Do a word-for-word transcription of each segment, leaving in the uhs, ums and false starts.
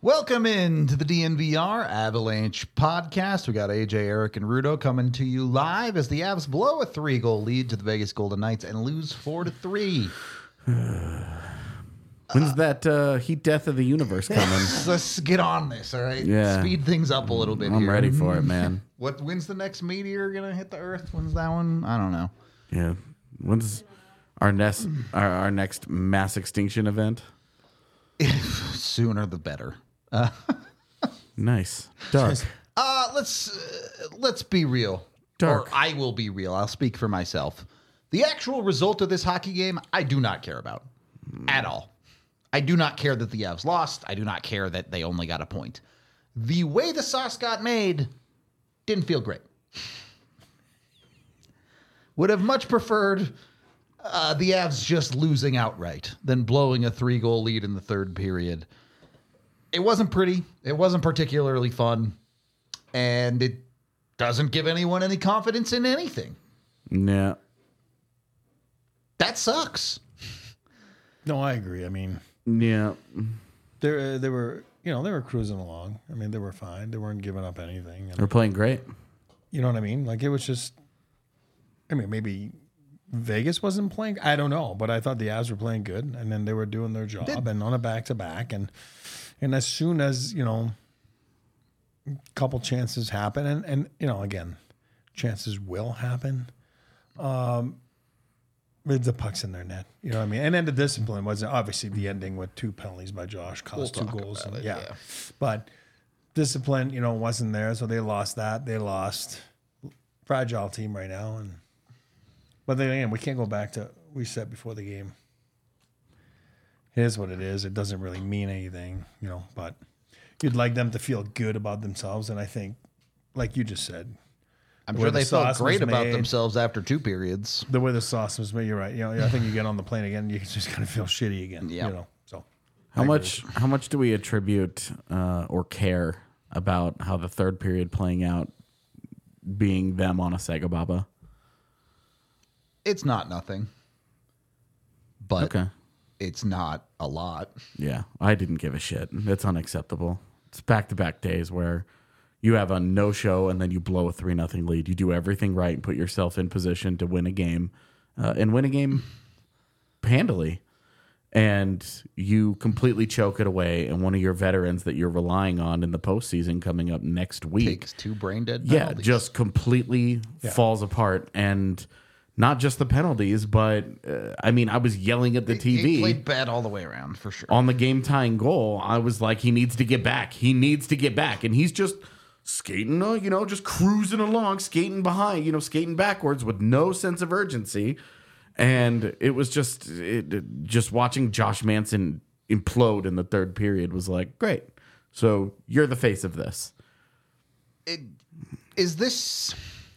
Welcome in to the D N V R Avalanche podcast. We got A J, Eric, and Rudo coming to you live as the Avs blow a three-goal lead to the Vegas Golden Knights and lose four to three. When's uh, that uh, heat death of the universe coming? Let's get on this, all right? Yeah. Speed things up a little bit I'm here. ready for it, man. What? When's the next meteor going to hit the Earth? When's that one? I don't know. Yeah. When's our next, our, our next mass extinction event? Sooner the better. Uh, nice. Dark. Uh, let's uh, let's be real. Dark. Or I will be real. I'll speak for myself. The actual result of this hockey game, I do not care about at all. I do not care that the Avs lost. I do not care that they only got a point. The way the sauce got made didn't feel great. Would have much preferred uh, the Avs just losing outright than blowing a three-goal lead in the third period. It wasn't pretty. It wasn't particularly fun. And it doesn't give anyone any confidence in anything. Yeah. That sucks. No, I agree. I mean, yeah, they they were, you know, they were cruising along. I mean, they were fine. They weren't giving up anything. And, we're playing great. you know what I mean? Like, it was just, I mean, maybe Vegas wasn't playing. I don't know, but I thought the Avs were playing good, and then they were doing their job Did- and on a back to back, and and as soon as, you know, a couple chances happen, and and you know, again, chances will happen. Um. The puck's in their net. You know what I mean? And then the discipline was obviously the ending with two penalties by Josh, cost We'll two talk goals. about And, it, yeah. yeah. But discipline, you know, wasn't there. So they lost that. They lost. Fragile team right now. And But then again, we can't go back to, we said before the game, here's what it is. It doesn't really mean anything, you know, but you'd like them to feel good about themselves. And I think, like you just said, I'm the sure way the they felt sauce great was about made. themselves after two periods. the way the sauce was made, you're right. You know, I think you get on the plane again, you just kind of feel shitty again. Yeah. You know, so How I much? How much do we attribute uh, or care about how the third period playing out being them on a Sega Baba? It's not nothing. But Okay. it's not a lot. Yeah, I didn't give a shit. It's unacceptable. It's back to back days where you have a no show and then you blow a three nothing lead. You do everything right and put yourself in position to win a game uh, and win a game handily. And you completely choke it away. And one of your veterans that you're relying on in the postseason coming up next week, Takes two brain dead yeah, penalties. just completely falls apart. And not just the penalties, but uh, I mean, I was yelling at the T V. He played bad all the way around, for sure. On the game tying goal, I was like, he needs to get back. He needs to get back. And he's just skating, uh, you know, just cruising along, skating behind, you know, skating backwards with no sense of urgency. And it was just, it, it- just watching Josh Manson implode in the third period was like, great. So you're the face of this. It, is this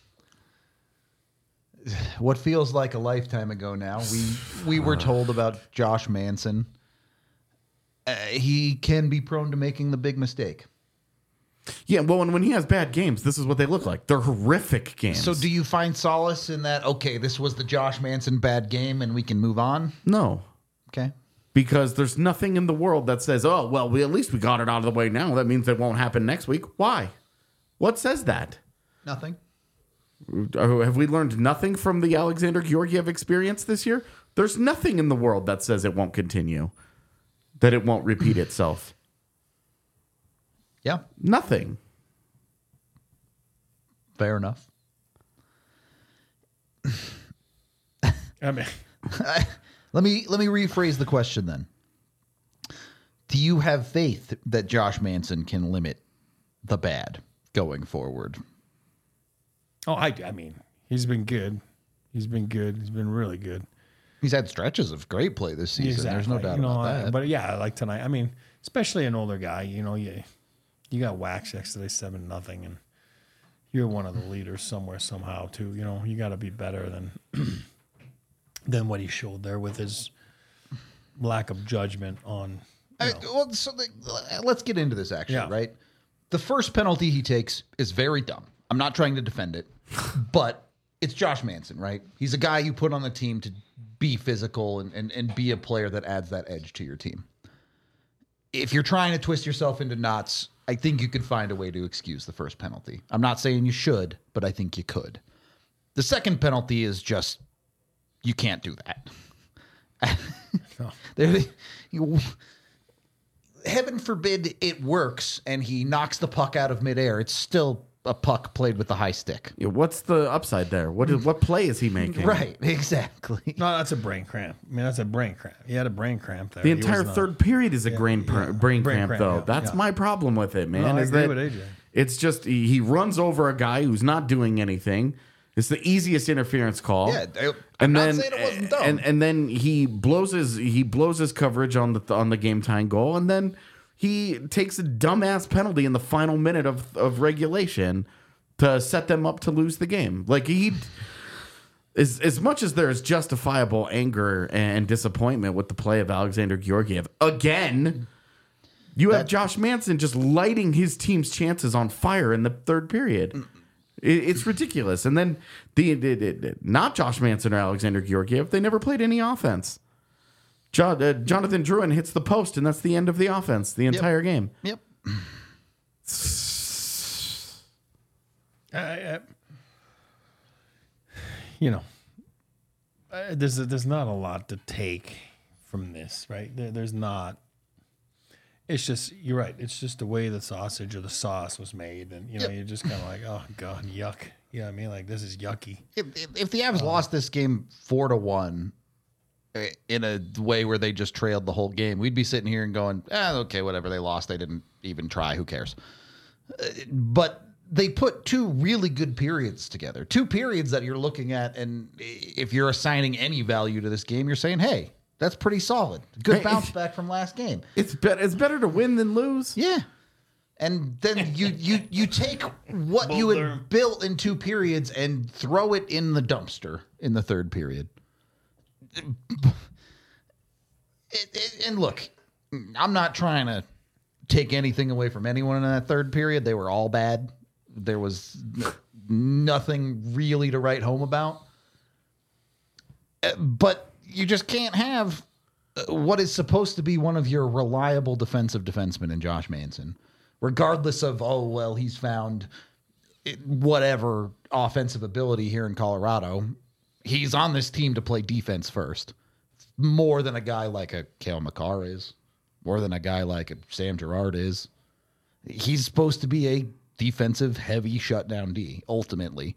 what feels like a lifetime ago now? We we were told about Josh Manson. Uh, he can be prone to making the big mistake. Yeah, well, and when he has bad games, this is what they look like. They're horrific games. So do you find solace in that, okay, this was the Josh Manson bad game and we can move on? No. Okay. Because there's nothing in the world that says, oh, well, we at least we got it out of the way now. That means it won't happen next week. Why? What says that? Nothing. Uh, Have we learned nothing from the Alexander Georgiev experience this year? There's nothing in the world that says it won't continue, that it won't repeat itself. Yeah, Nothing. fair enough. I mean, Let me let me rephrase the question then. Do you have faith that Josh Manson can limit the bad going forward? oh, I, I mean, he's been good. He's been good. He's been really good. He's had stretches of great play this season. There's no doubt You know, about I- that. But yeah, like tonight, I mean, especially an older guy, you know, you, you got waxed yesterday seven nothing, and you're one of the leaders somewhere, somehow, too. You know, you got to be better than than what he showed there with his lack of judgment on. You I- know, well, so the, let's get into this actually, Yeah. right? The first penalty he takes is very dumb. I'm not trying to defend it, but it's Josh Manson, right? He's a guy you put on the team to be physical and, and, and be a player that adds that edge to your team. if you're trying to twist yourself into knots, I think you could find a way to excuse the first penalty. I'm not saying you should, but I think you could. The second penalty is just, you can't do that. No. There, you, heaven forbid it works and he knocks the puck out of midair. It's still a puck played with the high stick. Yeah, what's the upside there? What is, what play is he making? Right, exactly. No, that's a brain cramp. I mean, that's a brain cramp. He had a brain cramp there. The He entire was not- third period is a brain, pr- yeah. brain, Brain cramp, cramp, though. yeah, That's yeah. my problem with it, man. No, I is agree that with A J. It's just he, he runs over a guy who's not doing anything. It's the easiest interference call. Yeah, I- I'm and not then saying it wasn't dumb. and and then he blows his he blows his coverage on the on the game time goal, and then he takes a dumbass penalty in the final minute of of regulation to set them up to lose the game. Like he. As, as much as there is justifiable anger and disappointment with the play of Alexander Georgiev, again, you have That- Josh Manson just lighting his team's chances on fire in the third period. It, it's ridiculous. And then the, the, the not Josh Manson or Alexander Georgiev, they never played any offense. Jo, uh, Jonathan Drouin hits the post, and that's the end of the offense, the entire game. Yep. I, I, you know, uh, there's there's not a lot to take from this, right? There, there's not. It's just you're right. It's just the way the sausage or the sauce was made, and you know, Yep. you're just kind of like, oh god, yuck. You know what I mean? Like this is yucky. If, if, if the Avs lost this game four to one uh, in a way where they just trailed the whole game, we'd be sitting here and going, ah, okay, whatever. They lost. They didn't even try. Who cares? Uh, but they put two really good periods together. Two periods that you're looking at, and if you're assigning any value to this game, you're saying, hey, that's pretty solid. Good Hey, bounce back from last game. It's, be- it's better to win than lose. Yeah. And then you you you take what you Boulder. had built in two periods and throw it in the dumpster in the third period. It, it, and look, I'm not trying to take anything away from anyone in that third period. They were all bad. There was nothing really to write home about. Uh, But you just can't have uh, what is supposed to be one of your reliable defensive defensemen in Josh Manson, regardless of, oh, well, he's found it- whatever offensive ability here in Colorado. He's on this team to play defense first, more than a guy like a Cale Makar is, more than a guy like a Sam Girard is. He's supposed to be a defensive heavy shutdown D ultimately.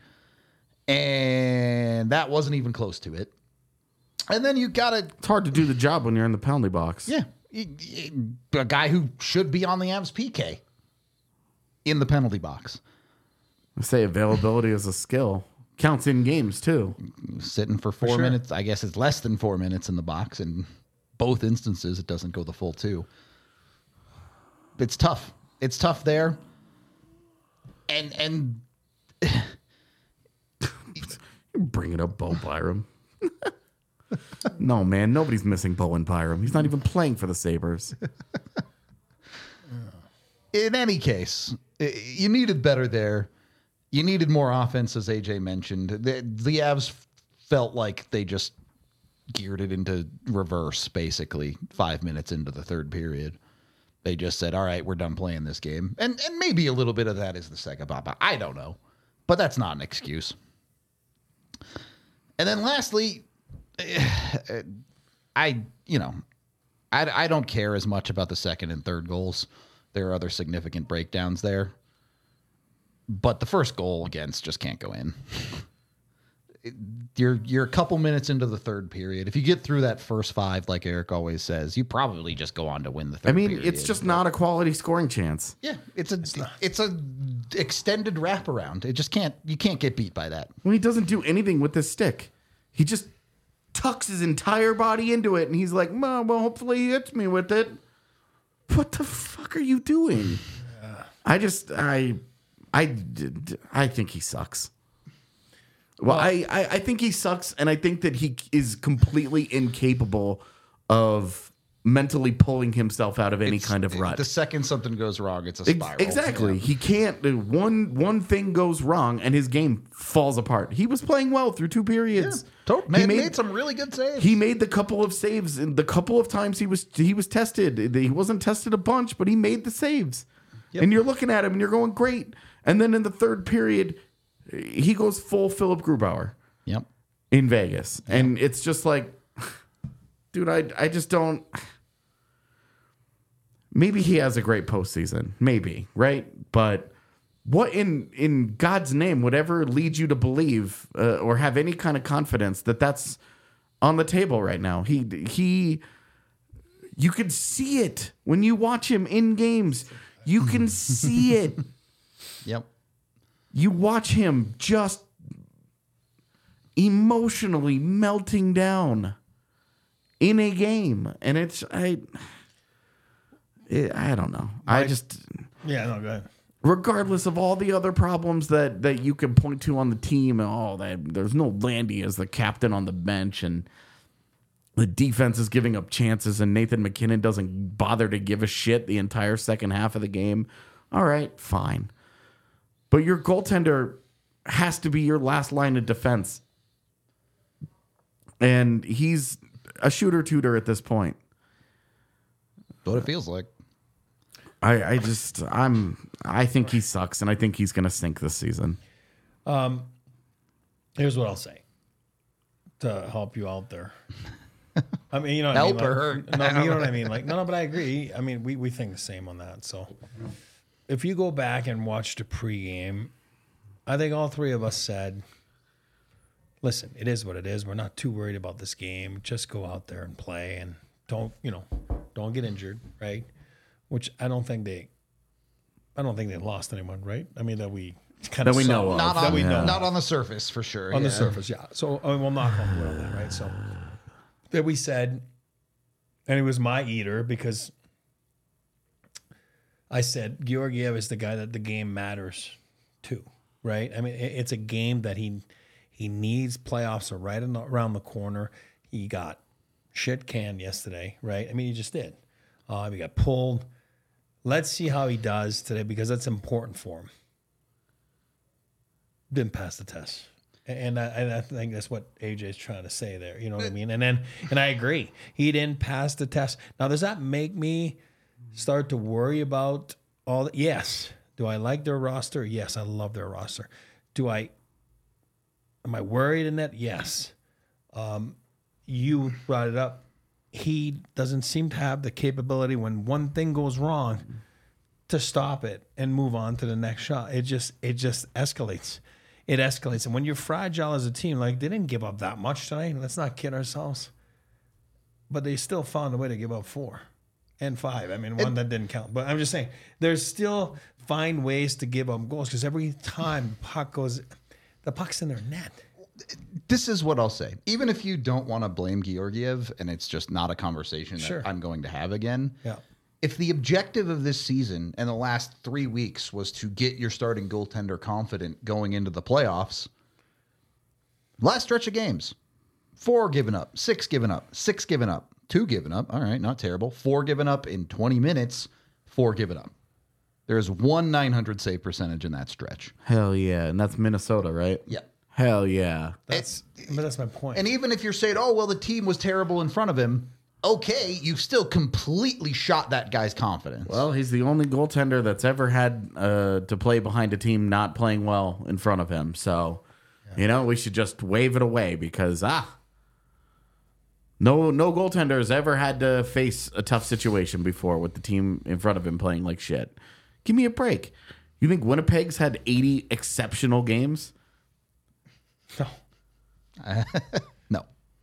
And that wasn't even close to it. And then you got to, It's hard to do the job when you're in the penalty box. yeah, y- y- a guy who should be on the Avs P K in the penalty box, I say availability is a skill. Counts in games too. sitting for four sure. minutes. I guess it's less than four minutes in the box. In both instances, it doesn't go the full two. It's tough. It's tough there. And, and You're bringing up Bo Byram. No, man, nobody's missing Bowen Byram. He's not even playing for the Sabres. in any case, i- you needed better there. You needed more offense, as A J mentioned. The, the Avs felt like they just geared it into reverse, basically, five minutes into the third period. They just said, all right, we're done playing this game. And and maybe a little bit of that is the second pop. I don't know. But that's not an excuse. And then lastly, I, you know, I, I don't care as much about the second and third goals. There are other significant breakdowns there. But the first goal against just can't go in. It- You're you're a couple minutes into the third period. If you get through that first five, like Eric always says, you probably just go on to win the third I mean, period. it's just not a quality scoring chance. Yeah, it's a it's, a extended wraparound. It just can't you can't get beat by that. When he doesn't do anything with this stick, he just tucks his entire body into it, and he's like, "Well, well, hopefully he hits me with it." What the fuck are you doing? I just, I, I, I think he sucks. Well, I, I, I think he sucks, and I think that he is completely incapable of mentally pulling himself out of any It's- kind of rut. The second something goes wrong, it's a Ex- spiral. Exactly. Yeah. He can't. uh, One one thing goes wrong and his game falls apart. He was playing well through two periods. To- He man, made- made, some really good saves. He made the couple of saves and the couple of times he was he was tested. He wasn't tested a bunch, but he made the saves. Yep. And you're looking at him and you're going great. And then in the third period, he goes full Philip Grubauer Yep. in Vegas, and it's just like, dude, I I just don't. Maybe he has a great postseason, maybe, right? But what in in God's name would ever lead you to believe uh, or have any kind of confidence that that's on the table right now? He he, you can see it when you watch him in games. You can see it. Yep. You watch him just emotionally melting down in a game, and it's I. It, I don't know. I just, Yeah, no, go ahead. regardless of all the other problems that, that you can point to on the team, and all that, there's no Landy as the captain on the bench, and the defense is giving up chances, and Nathan McKinnon doesn't bother to give a shit the entire second half of the game. All right, fine. But your goaltender has to be your last line of defense. And he's a shooter-tooter at this point. What it feels like. I, I just I'm I think he sucks, and I think he's gonna sink this season. Here's what I'll say to help you out there. I mean, you know, what Help I mean? or Like, hurt. No, you know what I mean. Like, no, no, but I agree. I mean, we we think the same on that. So, if you go back and watch the pregame, I think all three of us said, "Listen, it is what it is. We're not too worried about this game. Just go out there and play, and don't, you know, don't get injured, right?" Which I don't think they, I don't think they lost anyone, right? I mean, that we kind That of we saw. know of. Not That on, we know. not on the surface, for sure. On the yeah. surface, yeah. So I mean, we'll knock on wood on that, right? So that we said, and it was my eater because I said Georgiev is the guy that the game matters to, right? I mean, it- it's a game that he he needs. Playoffs are right in the, around the corner. He got shit canned yesterday, right? I mean, he just did. Uh, he got pulled. Let's see how he does today because that's important for him. Didn't pass the test. And I, and I think that's what A J's trying to say there. You know what I mean? And then, and I agree. He didn't pass the test. Now, does that make me start to worry about all that? Yes. Do I like their roster? Yes, I love their roster. Do I, am I worried in that? Yes. Um, you brought it up. He doesn't seem to have the capability when one thing goes wrong to stop it and move on to the next shot. It just, it just escalates. It escalates. And when you're fragile as a team, like they didn't give up that much tonight. Let's not kid ourselves. But they still found a way to give up four and five. I mean, one that didn't count. But I'm just saying, there's still find ways to give up goals because every time the puck goes, the puck's in their net. This is what I'll say. Even if you don't want to blame Georgiev, and it's just not a conversation that Sure. I'm going to have again. Yeah. If the objective of this season and the last three weeks was to get your starting goaltender confident going into the playoffs, last stretch of games, four given up, six given up, six given up, two given up. All right, not terrible. Four given up in twenty minutes, four given up. There's one nine hundred save percentage in that stretch. Hell yeah, and that's Minnesota, right? Yeah. Hell yeah. That's, but that's my point. And even if you're saying, oh, well, the team was terrible in front of him, okay, you've still completely shot that guy's confidence. Well, he's the only goaltender that's ever had uh, to play behind a team not playing well in front of him. So, you know, we should just wave it away because ah, no, no goaltender has ever had to face a tough situation before with the team in front of him playing like shit. Give me a break. You think Winnipeg's had eighty exceptional games? no. no.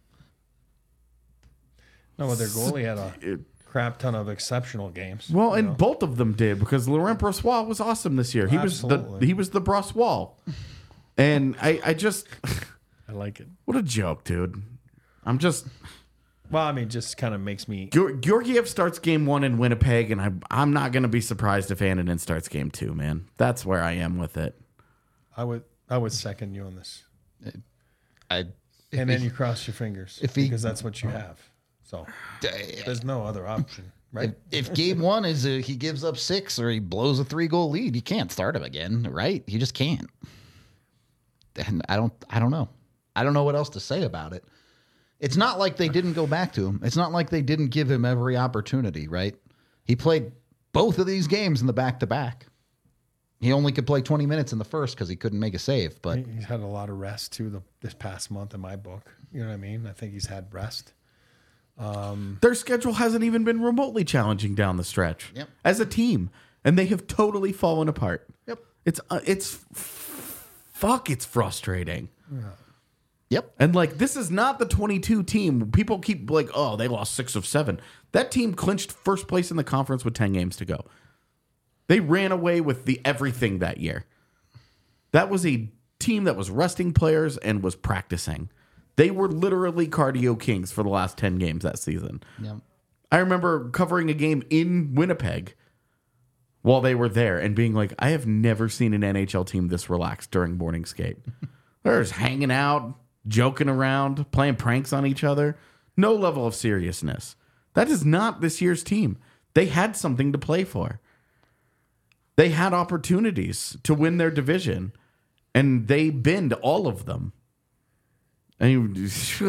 No, but their goalie had a crap ton of exceptional games. Well, you and know? both of them did because Laurent Brossoit was awesome this year. He was the Absolutely. he was the Brossoit, and I I just I like it. what a joke, dude. I'm just Well, I mean, just kind of makes me. Geor- Georgiev starts game one in Winnipeg, and I I'm not gonna be surprised if Annunen starts game two. Man, that's where I am with it. I would, I would second you on this, I, and then you cross your fingers if he- because that's what you have. So there's no other option, right? If, if game one is a, he gives up six or he blows a three goal lead, you can't start him again, right? You just can't. And I don't, I don't know. I don't know what else to say about it. It's not like they didn't go back to him. It's not like they didn't give him every opportunity, right? He played both of these games in the back-to-back. He only could play twenty minutes in the first because he couldn't make a save. But he's had a lot of rest too the, this past month in my book. You know what I mean? I think he's had rest. Um, Their schedule hasn't even been remotely challenging down the stretch Yep. as a team, and they have totally fallen apart. Yep. It's uh, it's fuck. It's frustrating. yeah. Yep. And like, this is not the twenty-two team. People keep like, oh, they lost six of seven. That team clinched first place in the conference with ten games to go. They ran away with the everything that year. That was a team that was resting players and was practicing. They were literally cardio kings for the last ten games that season. Yep. I remember covering a game in Winnipeg while they were there and being like, I have never seen an N H L team this relaxed during morning skate. They're just hanging out, joking around, playing pranks on each other. No level of seriousness. That is not this year's team. They had something to play for. They had opportunities to win their division, and they binned all of them. And you,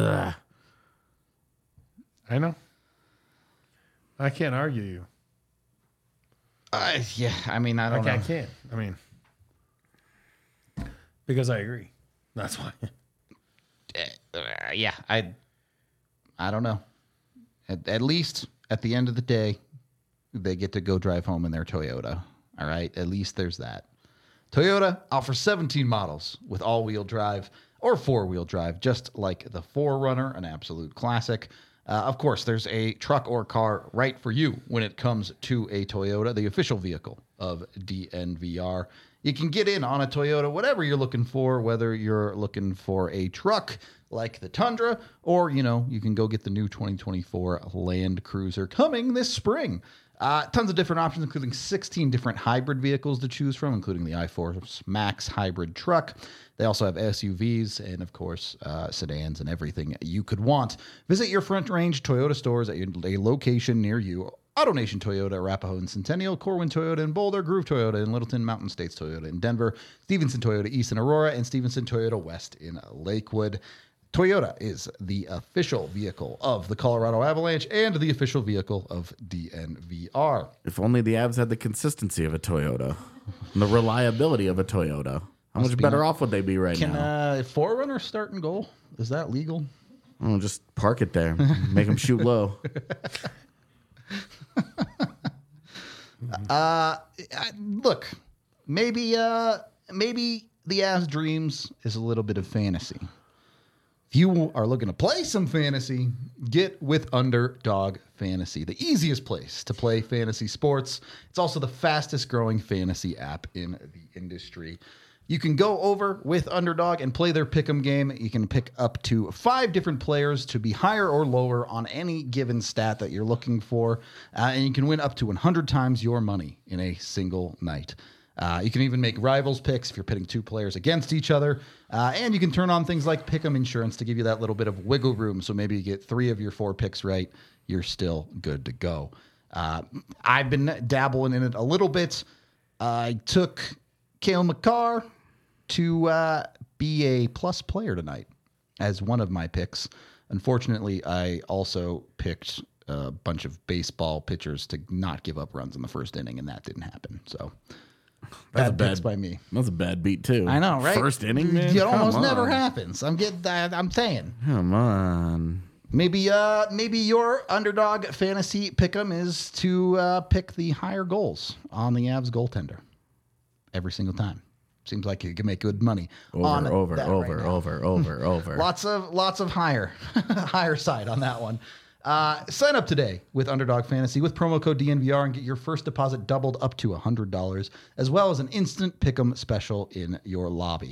I know. I can't argue you. Uh, yeah, I mean, I I, don't can't, know. I can't. I mean, because I agree. That's why. Uh, yeah, I, I don't know. At, at least at the end of the day, they get to go drive home in their Toyota. All right, at least there's that. Toyota offers seventeen models with all-wheel drive or four-wheel drive, just like the four runner, an absolute classic. Uh, of course, there's a truck or car right for you when it comes to a Toyota, the official vehicle of D N V R. You can get in on a Toyota, whatever you're looking for, whether you're looking for a truck like the Tundra, or, you know, you can go get the new twenty twenty-four Land Cruiser coming this spring. Uh, tons of different options, including sixteen different hybrid vehicles to choose from, including the iForce Max hybrid truck. They also have S U Vs and, of course, uh, sedans and everything you could want. Visit your Front Range Toyota stores at your, a location near you. AutoNation Toyota, Arapahoe and Centennial, Corwin Toyota in Boulder, Groove Toyota in Littleton, Mountain States Toyota in Denver, Stevenson Toyota East in Aurora, and Stevenson Toyota West in Lakewood. Toyota is the official vehicle of the Colorado Avalanche and the official vehicle of D N V R. if only the Avs had the consistency of a Toyota and the reliability of a Toyota. How Must much be better nice. off would they be right Can now? uh, four runner start and goal? Is that legal? Oh, just park it there. Make them shoot low. Uh, I- look, maybe uh, maybe the Avs dreams is a little bit of fantasy. If you are looking to play some fantasy, get with Underdog Fantasy, the easiest place to play fantasy sports. It's also the fastest growing fantasy app in the industry. You can go over with Underdog and play their pick'em game. You can pick up to five different players to be higher or lower on any given stat that you're looking for, uh, and you can win up to one hundred times your money in a single night. Uh, you can even make rivals picks if you're pitting two players against each other, uh, and you can turn on things like pick'em insurance to give you that little bit of wiggle room. So maybe you get three of your four picks right, you're still good to go. Uh, I've been dabbling in it a little bit. I took Cale Makar to uh, be a plus player tonight as one of my picks. Unfortunately, I also picked a bunch of baseball pitchers to not give up runs in the first inning, and that didn't happen. So That's a bad bad picks by me. That's a bad beat too. I know, right? First inning, man. It Come almost on. never happens. I'm getting. I'm saying. Come on. Maybe, uh, maybe your Underdog Fantasy pick'em is to uh, pick the higher goals on the Avs goaltender every single time. Seems like you can make good money Over, on over, that over, right now. over, over, over. Lots of lots of higher higher side on that one. Uh, sign up today with Underdog Fantasy with promo code D N V R and get your first deposit doubled up to one hundred dollars, as well as an instant pick'em special in your lobby.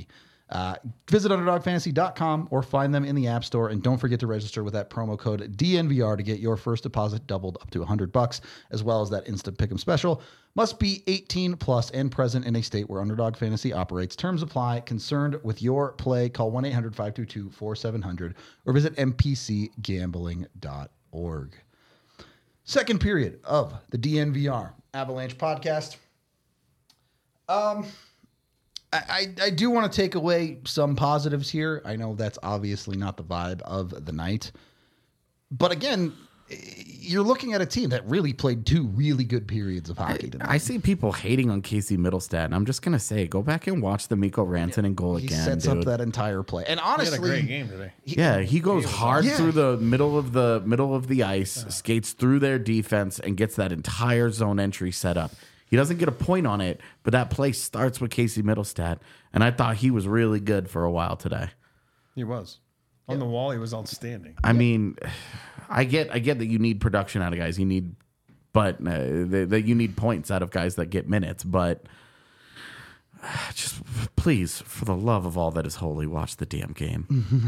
Uh, visit underdog fantasy dot com or find them in the App Store. And don't forget to register with that promo code D N V R to get your first deposit doubled up to one hundred bucks, as well as that instant pick'em special. Must be eighteen plus and present in a state where Underdog Fantasy operates. Terms apply. Concerned with your play, call one eight hundred five two two four seven zero zero or visit m p c gambling dot org. Second period of the D N V R Avalanche podcast. Um... I, I do want to take away some positives here. I know that's obviously not the vibe of the night. But again, you're looking at a team that really played two really good periods of hockey tonight. I see people hating on Casey Middlestat, and I'm just going to say, go back and watch the Mikko Rantanen goal he again, He sets dude. up that entire play. And honestly, he had a great game today. He, yeah, he goes hard yeah. through the middle of the middle of the ice, skates through their defense, and gets that entire zone entry set up. He doesn't get a point on it, but that play starts with Casey Middlestat, and I thought he was really good for a while today. He was. On the wall, he was outstanding. I mean, I get I get that you need production out of guys. You need, but uh, that that you need points out of guys that get minutes. But uh, just please, for the love of all that is holy, watch the damn game.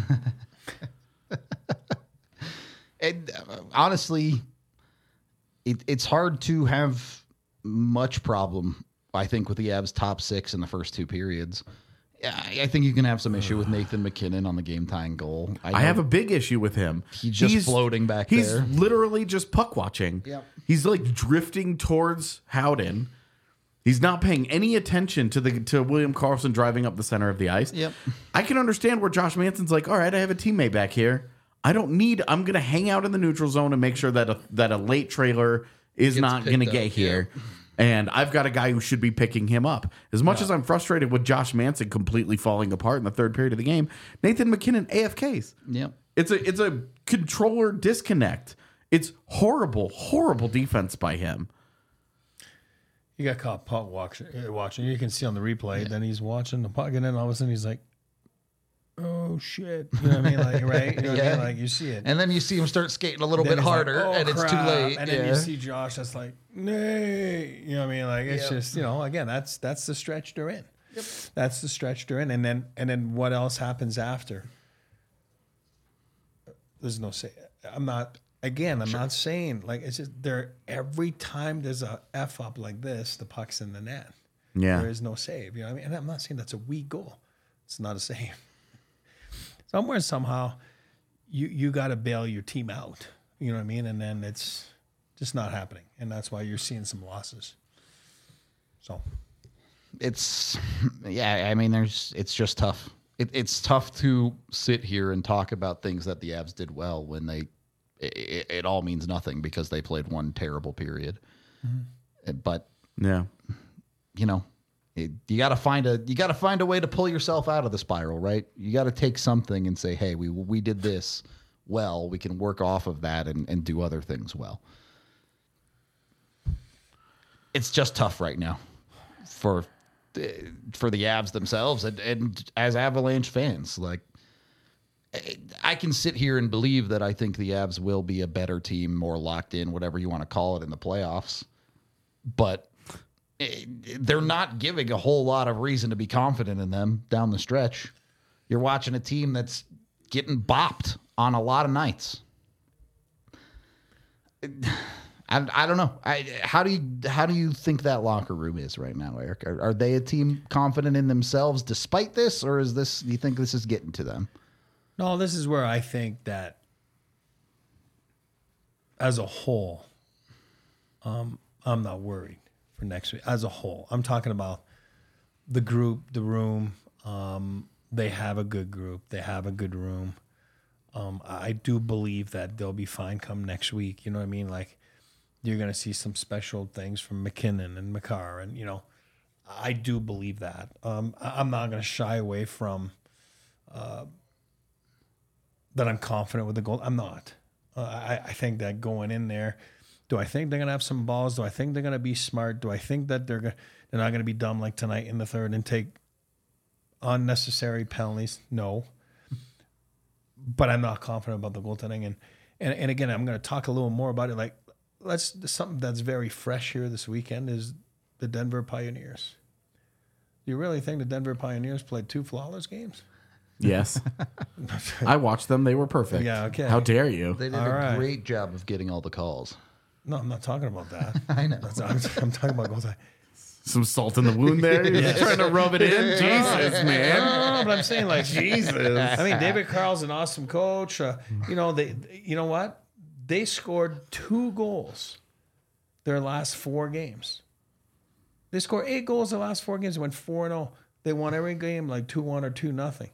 And uh, honestly, it, it's hard to have much problem, I think, with the Avs top six in the first two periods. I, I think you can have some issue with Nathan McKinnon on the game tying goal. I, I have a big issue with him. He's just floating back he's there. He's literally just puck watching. Yep. He's like drifting towards Howden. He's not paying any attention to the to William Karlsson driving up the center of the ice. Yep. I can understand where Josh Manson's like, all right, I have a teammate back here. I don't need. I'm going to hang out in the neutral zone and make sure that a, that a late trailer is Gets not going to picked get up, here. yeah. And I've got a guy who should be picking him up. As much as I'm frustrated with Josh Manson completely falling apart in the third period of the game, Nathan McKinnon A F Ks. Yep. It's a it's a controller disconnect. It's horrible, horrible defense by him. He got caught puck watching. Watching. You can see on the replay. Yeah. Then he's watching the puck, and then all of a sudden he's like, "Oh shit!" You know what I mean? Like, right? You know what Yeah. I mean? Like, you see it, And then you see him start skating a little then bit he's harder, like, oh, and it's too crap. late. And yeah. then you see Josh that's like, "Nay," you know what I mean? Like, it's Yep. just, you know, again, that's that's the stretch they're in. Yep. That's the stretch they're in, and then and then what else happens after? There's no say. I'm not. Again, I'm sure. not saying like it's just there. Every time there's a f up like this, the puck's in the net. Yeah, there is no save. You know what I mean? And I'm not saying that's a weak goal. It's not a save. Somewhere somehow, you you got to bail your team out. You know what I mean? And then it's just not happening, and that's why you're seeing some losses. So, it's yeah. I mean, there's it's just tough. It, it's tough to sit here and talk about things that the Avs did well when they. It, it all means nothing because they played one terrible period. Mm-hmm. But yeah, you know, it, you got to find a you got to find a way to pull yourself out of the spiral, right? You got to take something and say, "Hey, we we did this well. We can work off of that and, and do other things well." It's just tough right now for for the Avs themselves and, and as Avalanche fans, like. I can sit here and believe that I think the Avs will be a better team, more locked in, whatever you want to call it, in the playoffs. But they're not giving a whole lot of reason to be confident in them down the stretch. You're watching a team that's getting bopped on a lot of nights. I, I don't know. I, how do you how do you think that locker room is right now, Eric? Are, are they a team confident in themselves despite this, or is this? Do you think this is getting to them? No, this is where I think that as a whole, um, I'm not worried for next week. As a whole, I'm talking about the group, the room. Um, they have a good group. They have a good room. Um, I do believe that they'll be fine come next week. You know what I mean? Like, you're going to see some special things from McKinnon and Makar. And, you know, I do believe that. Um, I'm not going to shy away from uh, that I'm confident with the goal. I'm not. Uh, I, I think that going in there, do I think they're going to have some balls? Do I think they're going to be smart? Do I think that they're, gonna, they're not going to be dumb like tonight in the third and take unnecessary penalties? No. But I'm not confident about the goaltending. And, and, and again, I'm going to talk a little more about it. Like, let's something that's very fresh here this weekend is the Denver Pioneers. You really think the Denver Pioneers played two flawless games? Yes. I watched them. They were perfect. Yeah, okay. How dare you? They did All a right. great job of getting all the calls. No, I'm not talking about that. I know. That's, I'm, I'm talking about goals. Some salt in the wound there. You're just trying to rub it in. Jesus, man. No, but I'm saying like Jesus. I mean, David Carl's an awesome coach. Uh, you know, they. You know what? They scored two goals their last four games. They scored eight goals the last four games. They went four and zero. They won every game like two one or two nothing.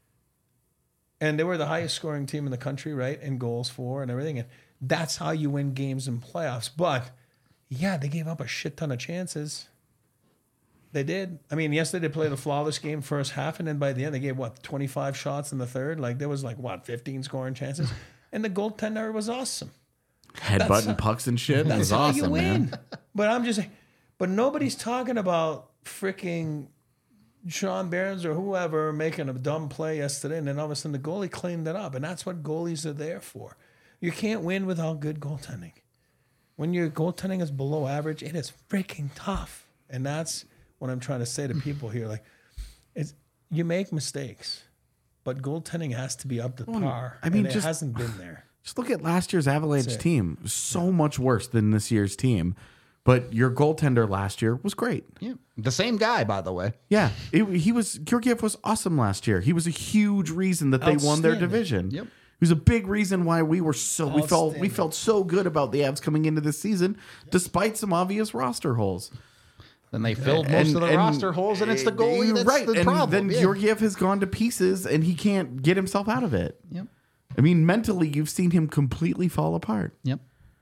And they were the highest scoring team in the country, right? In goals for and everything. And that's how you win games in playoffs. But yeah, they gave up a shit ton of chances. They did. I mean, yesterday they played a flawless game first half, and then by the end they gave what twenty-five shots in the third. Like there was like what fifteen scoring chances, and the goaltender was awesome. Headbutting pucks and shit. That That's was how awesome, you win. man. But I'm just saying, but nobody's talking about freaking Sean Barnes or whoever making a dumb play yesterday, and then all of a sudden the goalie cleaned it up, and that's what goalies are there for. You can't win without good goaltending. When your goaltending is below average, it is freaking tough, and that's what I'm trying to say to people here. Like, it's you make mistakes, but goaltending has to be up to par. I mean, and just- it hasn't been there. Just look at last year's Avalanche That's it. team. So much worse than this year's team. But your goaltender last year was great. Yeah. The same guy, by the way. Yeah, it, he was. Georgiev was awesome last year. He was a huge reason that they won their Outstanding. division. Yep. He was a big reason why we were so we felt we Outstanding. felt so good about the Avs coming into this season, despite some obvious roster holes. Then they filled most And- of the and- roster holes, and it's the goalie that's right. the and problem. then Yeah. Georgiev has gone to pieces, and he can't get himself out of it. Yep. I mean, mentally, you've seen him completely fall apart. Yep.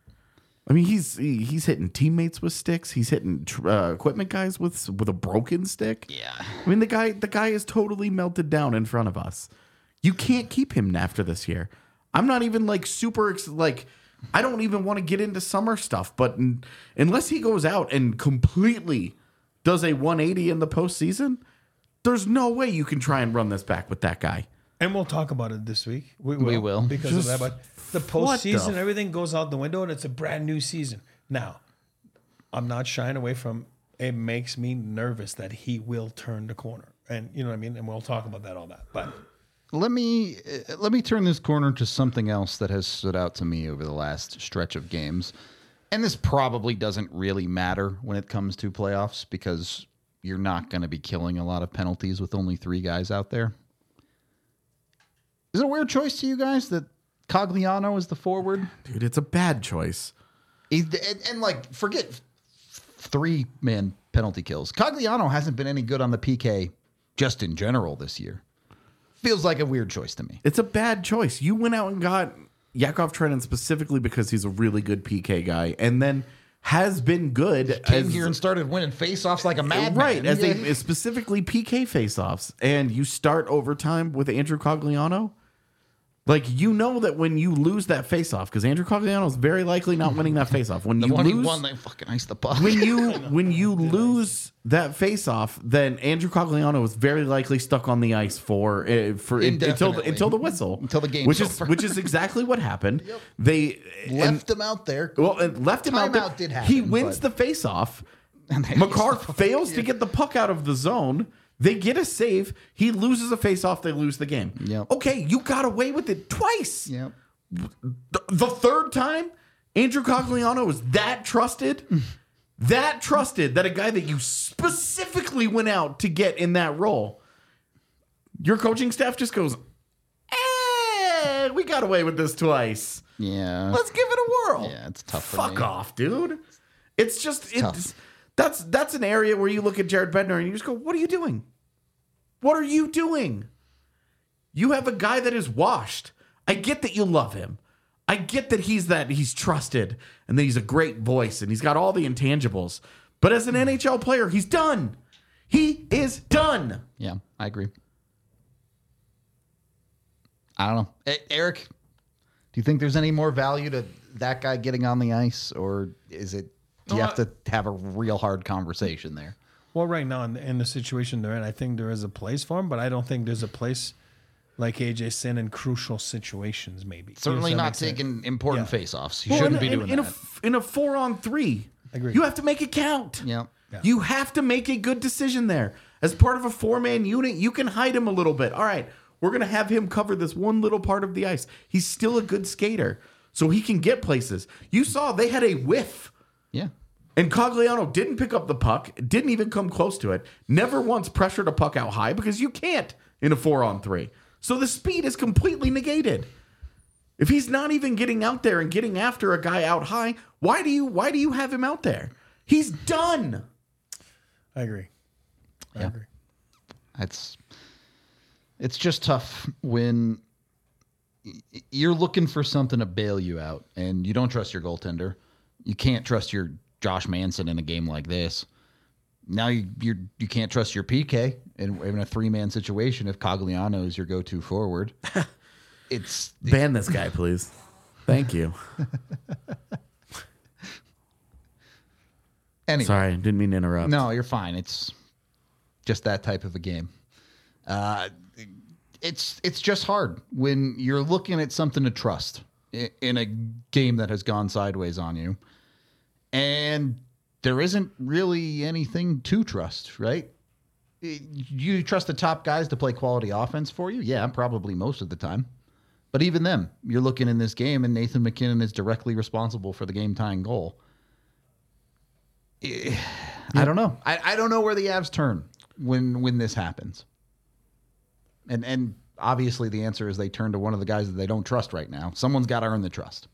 I mean, he's he- he's hitting teammates with sticks. He's hitting tr- uh, equipment guys with with a broken stick. Yeah. I mean, the guy the guy is totally melted down in front of us. You can't keep him after this year. I'm not even like super ex- like I don't even want to get into summer stuff, but n- unless he goes out and completely does a one eighty in the postseason, there's no way you can try and run this back with that guy. And we'll talk about it this week. We will, We will. because Just of that. But the what the postseason, f- everything goes out the window, and it's a brand new season. Now, I'm not shying away from. It makes me nervous that he will turn the corner, and you know what I mean. And we'll talk about that, all that. But Let me uh, let me turn this corner to something else that has stood out to me over the last stretch of games. And this probably doesn't really matter when it comes to playoffs because you're not going to be killing a lot of penalties with only three guys out there. Is it a weird choice to you guys that Cogliano is the forward? Dude, it's a bad choice. He's, and, and like, forget three man penalty kills. Cogliano hasn't been any good on the P K just in general this year. Feels like a weird choice to me. It's a bad choice. You went out and got Yakov Trenin specifically because he's a really good P K guy, and then has been good. Came as- here and started winning faceoffs like a madman. right as Yeah. a specifically P K faceoffs, and you start overtime with Andrew Cogliano. Like, you know that when you lose that faceoff, because Andrew Cogliano is very likely not winning that faceoff. When The you one he lose, won, they fucking iced the puck. when you when you lose that faceoff, then Andrew Cogliano is very likely stuck on the ice for uh, for until the, Indefinitely. until the whistle, Until the game's which is over. which is exactly what happened. They and- left him out there. well, and left him out there. Timeout did happen, he wins but- the faceoff. And they McCarr iced the puck. fails to get the puck out of the zone. They get a save. He loses a faceoff. They lose the game. Yep. Okay, you got away with it twice. Yep. The, the third time, Andrew Cogliano was that trusted, that trusted that a guy that you specifically went out to get in that role, your coaching staff just goes, eh, we got away with this twice. Yeah. Let's give it a whirl. Yeah, it's tough for Fuck me. off, dude. It's just it's, tough. that's that's an area where you look at Jared Bednar and you just go, what are you doing? What are you doing? You have a guy that is washed. I get that you love him. I get that he's that he's trusted and that he's a great voice and he's got all the intangibles. But as an N H L player, he's done. He is done. Yeah, I agree. I don't know. E- Eric, do you think there's any more value to that guy getting on the ice, or is it, do you No, have to have a real hard conversation there? well, right now in the, in the situation they're in, I think there is a place for him, but I don't think there's a place like A J Sin in crucial situations. Maybe Certainly Does that not make sense? taking important Yeah. faceoffs. He Well, shouldn't in, be in- doing in that. A, f- in a four on three, Agreed. you have to make it count. yeah. Yeah. You have to make a good decision there. As part of a four-man unit, you can hide him a little bit. All right, we're going to have him cover this one little part of the ice. He's still a good skater, so he can get places. You saw they had a whiff. Yeah. And Cogliano didn't pick up the puck, didn't even come close to it, never once pressured a puck out high because you can't in a four-on-three. So the speed is completely negated. If he's not even getting out there and getting after a guy out high, why do you why do you have him out there? He's done. I agree. I Yeah. agree. It's it's just tough when y- you're looking for something to bail you out and you don't trust your goaltender. You can't trust your Josh Manson in a game like this. Now you you're, you can't trust your P K in, in a three-man situation if Cogliano is your go-to forward. It's Ban this guy, please. Thank you. anyway. Sorry, didn't mean to interrupt. No, you're fine. It's just that type of a game. Uh, it's it's just hard when you're looking at something to trust i- in a game that has gone sideways on you, and there isn't really anything to trust, right? I- You trust the top guys to play quality offense for you? Yeah, probably most of the time. But even them, you're looking in this game, and Nathan McKinnon is directly responsible for the game-tying goal. Eh, I don't know. I, I don't know where the Avs turn when when this happens. And and obviously the answer is they turn to one of the guys that they don't trust right now. Someone's got to earn the trust.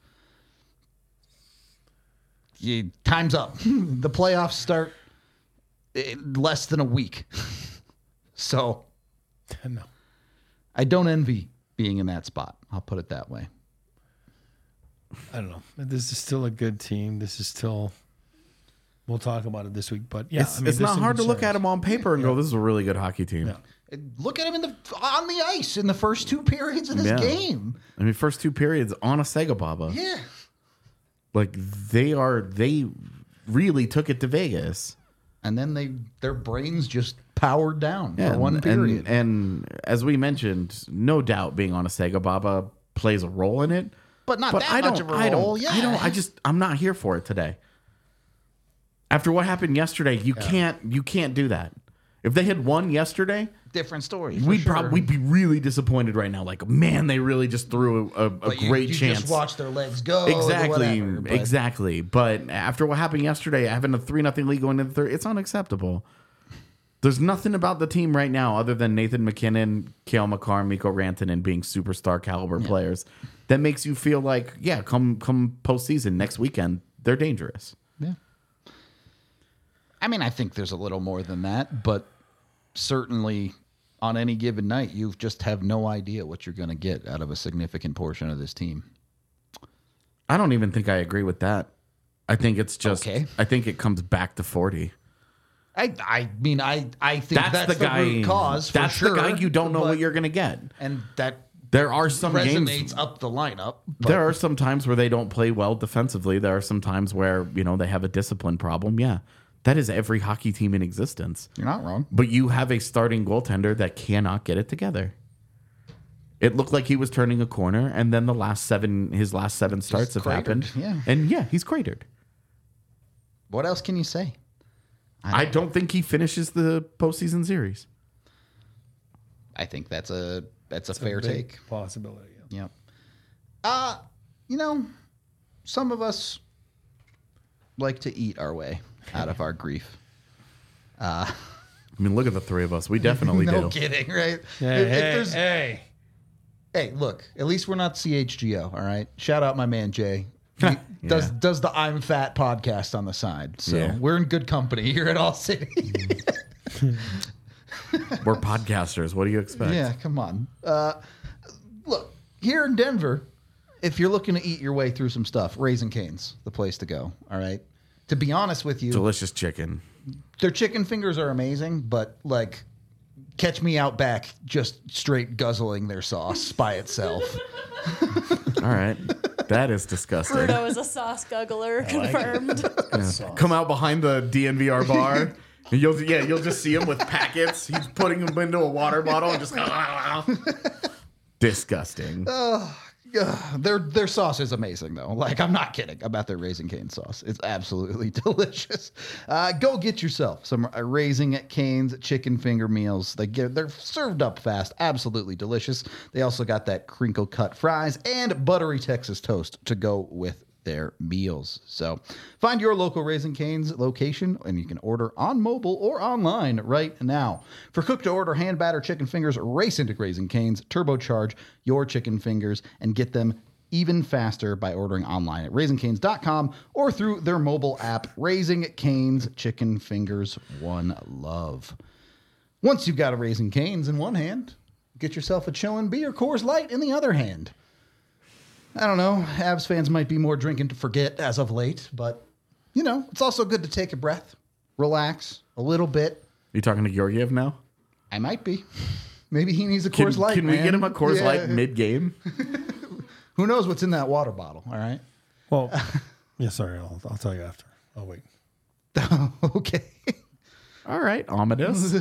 You, time's up. The playoffs start in less than a week. So No. I don't envy being in that spot. I'll put it that way. I don't know. This is still a good team. This is still. We'll talk about it this week, but yeah, It's, I mean, it's there's not some hard to look at concerns. him on paper and go, this is a really good hockey team. Yeah. Look at him in the on the ice in the first two periods of this Yeah. game. I mean, first two periods on a Sega Baba. Yeah. Like, they are, they really took it to Vegas. And then they their brains just powered down Yeah, for one and- period. And, and as we mentioned, no doubt being on a Sega Baba plays a role in it. But not But that I much don't, of a I role. don't, Yeah. I don't, I just, I'm not here for it today. After what happened yesterday, you can't, you can't do that. If they had won yesterday, different story. for we'd sure. probably we'd be really disappointed right now. Like, man, they really just threw a, a, a But you- great you chance. Just watch their legs go. or Exactly, whatever, but- exactly. But after what happened yesterday, having a three nothing lead going into the third, it's unacceptable. There's nothing about the team right now other than Nathan McKinnon, Cale Makar, Mikko Rantanen being superstar caliber players that makes you feel like, yeah, come come postseason next weekend, they're dangerous. Yeah. I mean, I think there's a little more than that, but certainly on any given night, you just have no idea what you're going to get out of a significant portion of this team. I don't even think I agree with that. I think it's just. Okay. I think it comes back to forty. I, I mean, I, I think That's, that's, the guy. root cause. For that's sure, the guy you don't know but- what you're going to get. and that There are some resonates games. up the lineup. But There are some times where they don't play well defensively. There are some times where, you know, they have a discipline problem. Yeah. That is every hockey team in existence. you're not wrong. But you have a starting goaltender that cannot get it together. It looked like he was turning a corner, and then the last seven, his last seven starts have cratered, happened. yeah. And yeah, he's cratered. What else can you say? I don't think he finishes the postseason series. I think that's a that's a It's a fair big take. possibility. Yeah. Yep. Uh, you know, some of us like to eat our way out of our grief. I mean, look at the three of us. We definitely no do. kidding, right? Hey, If- if hey, there's- hey. hey, look, at least we're not C H G O, all right? Shout out my man Jay. He does Yeah. does the I'm Fat podcast on the side. So Yeah. we're in good company here at All City. We're podcasters. What do you expect? Yeah, come on. Uh, look, here in Denver, if you're looking to eat your way through some stuff, Raising Cane's the place to go, all right? To be honest with you, Delicious chicken. their chicken fingers are amazing, but like, catch me out back just straight guzzling their sauce by itself. All right. That is disgusting. Bruno is a sauce guggler, confirmed. Come out behind the D N V R bar. And you'll yeah, you'll just see him with packets. He's putting them into a water bottle and just disgusting. uh, their their sauce is amazing though. Like, I'm not kidding about their Raising Cane's sauce. It's absolutely delicious. Uh, go get yourself some uh, Raising Cane's chicken finger meals. They get they're served up fast. Absolutely delicious. They also got that crinkle cut fries and buttery Texas toast to go with their meals. So find your local Raising Cane's location and you can order on mobile or online right now. For cook to order hand batter chicken fingers, race into Raising Cane's, turbocharge your chicken fingers and get them even faster by ordering online at raising canes dot com or through their mobile app. Raising Cane's chicken fingers, one love. Once you've got a Raising Cane's in one hand, get yourself a chillin' beer Coors Light in the other hand. I don't know. Avs fans might be more drinking to forget as of late, but, you know, it's also good to take a breath, relax a little bit. You talking to Georgiev now? I might be. Maybe he needs a Can, Coors Light, can we man. get him a Coors Yeah. Light mid-game? Who knows what's in that water bottle, all right? Well, yeah, sorry. I'll, I'll tell you after. Oh, wait. Okay. All right, Amadeus.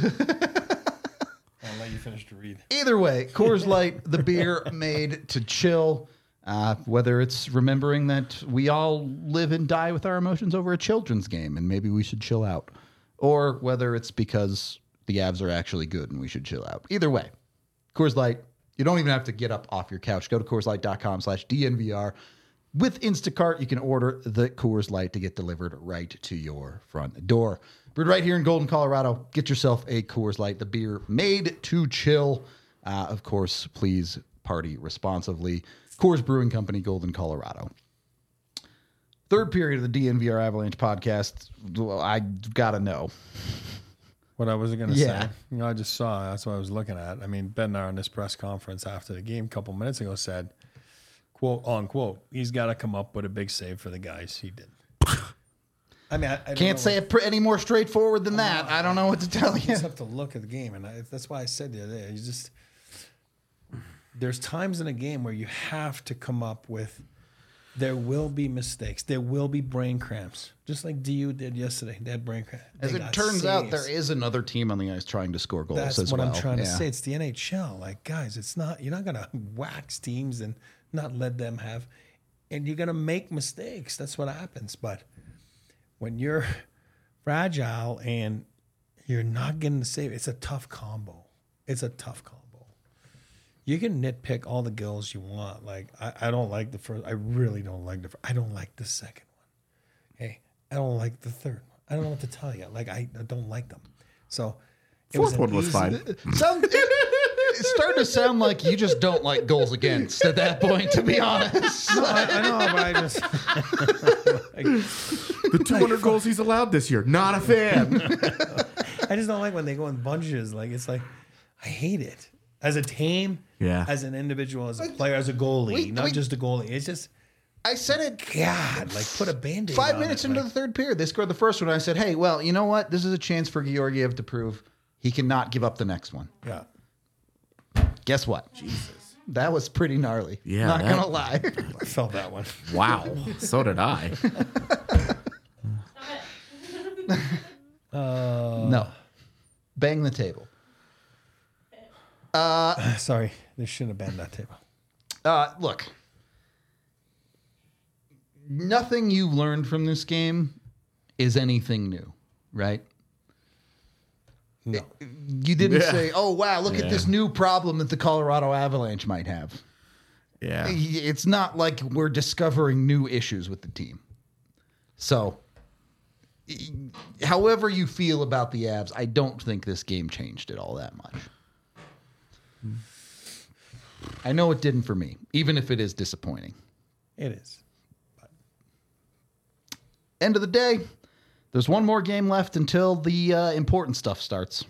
I'll let you finish to read. Either way, Coors Light, the beer made to chill. Uh, whether it's remembering that we all live and die with our emotions over a children's game and maybe we should chill out, or whether it's because the Avs are actually good and we should chill out. Either way, Coors Light, you don't even have to get up off your couch. Go to coors light dot com slash D N V R. With Instacart, you can order the Coors Light to get delivered right to your front door. Brewed right here in Golden, Colorado. Get yourself a Coors Light, the beer made to chill. Uh, of course, please party responsibly. Coors Brewing Company, Golden, Colorado. Third period of the D N V R Avalanche podcast. Well, I gotta know. What I was going to Yeah. say, you know, I just saw, that's what I was looking at. I mean, Bednar in this press conference after the game a couple minutes ago said, quote, unquote, he's got to come up with a big save for the guys. He did. I mean, I, I don't Can't know say what- it pr- any more straightforward than that. I don't know what to tell You you. just have to look at the game, and I, that's why I said the other day, you just there's times in a game where you have to come up with. There will be mistakes. There will be brain cramps, just like D U did yesterday. They had brain cramps. As They it got turns out, saves. there is another team on the ice trying to score goals That's as what well. I'm trying to Yeah. say. It's the N H L. Like, guys, it's not. You're not gonna wax teams and not let them have, and you're gonna make mistakes. That's what happens. But when you're fragile and you're not getting the save, it's a tough combo. It's a tough combo. You can nitpick all the goals you want. Like, I, I don't like the first. I really don't like the. First, I don't like the second one. Hey, I don't like the third one. I don't know what to tell you. Like, I, I don't like them. So, it Fourth an one was easy- fine. Sound, it, it's starting to sound like you just don't like goals against at that point, to be honest. No, I, I know, but I just. like, The two hundred goals he's allowed this year. Not a fan. I just don't like when they go in bunches. Like, it's like, I hate it. As a team, Yeah. as an individual, as a player, as a goalie, we- not we- just a goalie. It's just, I said it God, like, put a band-aid five on minutes it. into like, the third period. They scored the first one. I said, hey, well, you know what? This is a chance for Georgiev to prove he cannot give up the next one. Yeah. Guess what? Jesus. That was pretty gnarly. Yeah, Not that- going to lie. I felt that one. Wow. So did I. no. Bang the table. Sorry, they shouldn't have banned that table. Uh, look, nothing you've learned from this game is anything new, right? No. You didn't Yeah. say, oh, wow, look Yeah. at this new problem that the Colorado Avalanche might have. Yeah. It's not like we're discovering new issues with the team. So, however you feel about the Avs, I don't think this game changed it all that much. I know it didn't for me, even if it is disappointing. It is. End of the day, there's one more game left until the uh, important stuff starts.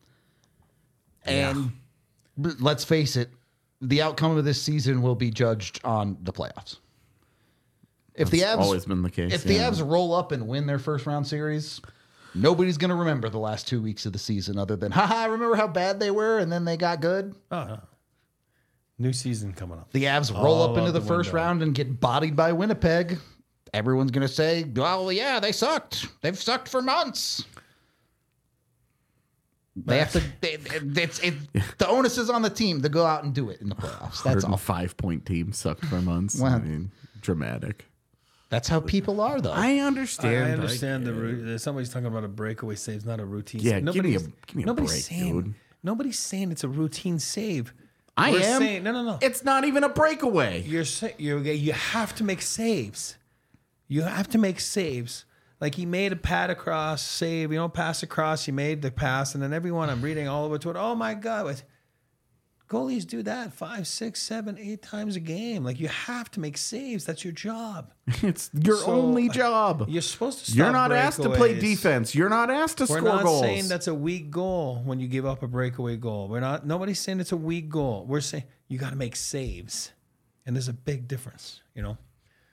And b- let's face it, the outcome of this season will be judged on the playoffs. If the That's Avs always been the case. if the yeah. Avs roll up and win their first round series, nobody's going to remember the last two weeks of the season other than, haha, remember how bad they were and then they got good? Oh, no. New season coming up. The Avs roll All up into out the the first window. round and get bodied by Winnipeg. Everyone's going to say, well, yeah, they sucked. They've sucked for months. They have to. They, it's it. The onus is on the team to go out and do it in the playoffs. That's all. Five point team sucked for months. Well, I mean, dramatic. That's how people are, though. I I, understand. I understand the ru- somebody's talking about a breakaway save, it's not a routine. Yeah, save. give me a- Nobody's- give me a nobody's break, saying, dude. Nobody's saying it's a routine save. I We're am. saying- no, no, no. It's not even a breakaway. You're saying you you have to make saves. You have to make saves. Like he made a pat across save, you know, pass across. He made the pass, and then everyone I'm reading all over to it. Oh my God! What? Goalies do that five, six, seven, eight times a game. Like you have to make saves. That's your job. It's your So, only job. You're supposed to. Stop You're not asked to play breakaways. defense. You're not asked to We're score not goals. saying that's a weak goal when you give up a breakaway goal. We're not. Nobody's saying it's a weak goal. We're saying you got to make saves, and there's a big difference. You know,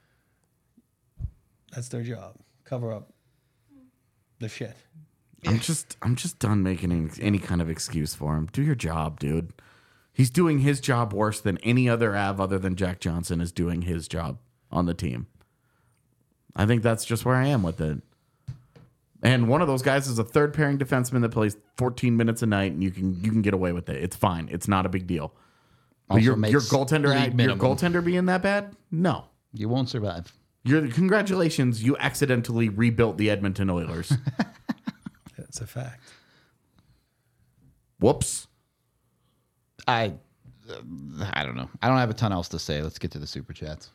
that's their job. Cover up the shit. I'm just I'm just done making any, any kind of excuse for him. Do your job, dude. He's doing his job worse than any other Av other than Jack Johnson is doing his job on the team. I think that's just where I am with it. And one of those guys is a third pairing defenseman that plays fourteen minutes a night, and you can you can get away with it. It's fine. It's not a big deal. But Also your makes your goaltender league your minimum. goaltender being that bad? No. You won't survive. You're congratulations. You accidentally rebuilt the Edmonton Oilers. That's a fact. Whoops. I, uh, I don't know. I don't have a ton else to say. Let's get to the super chats.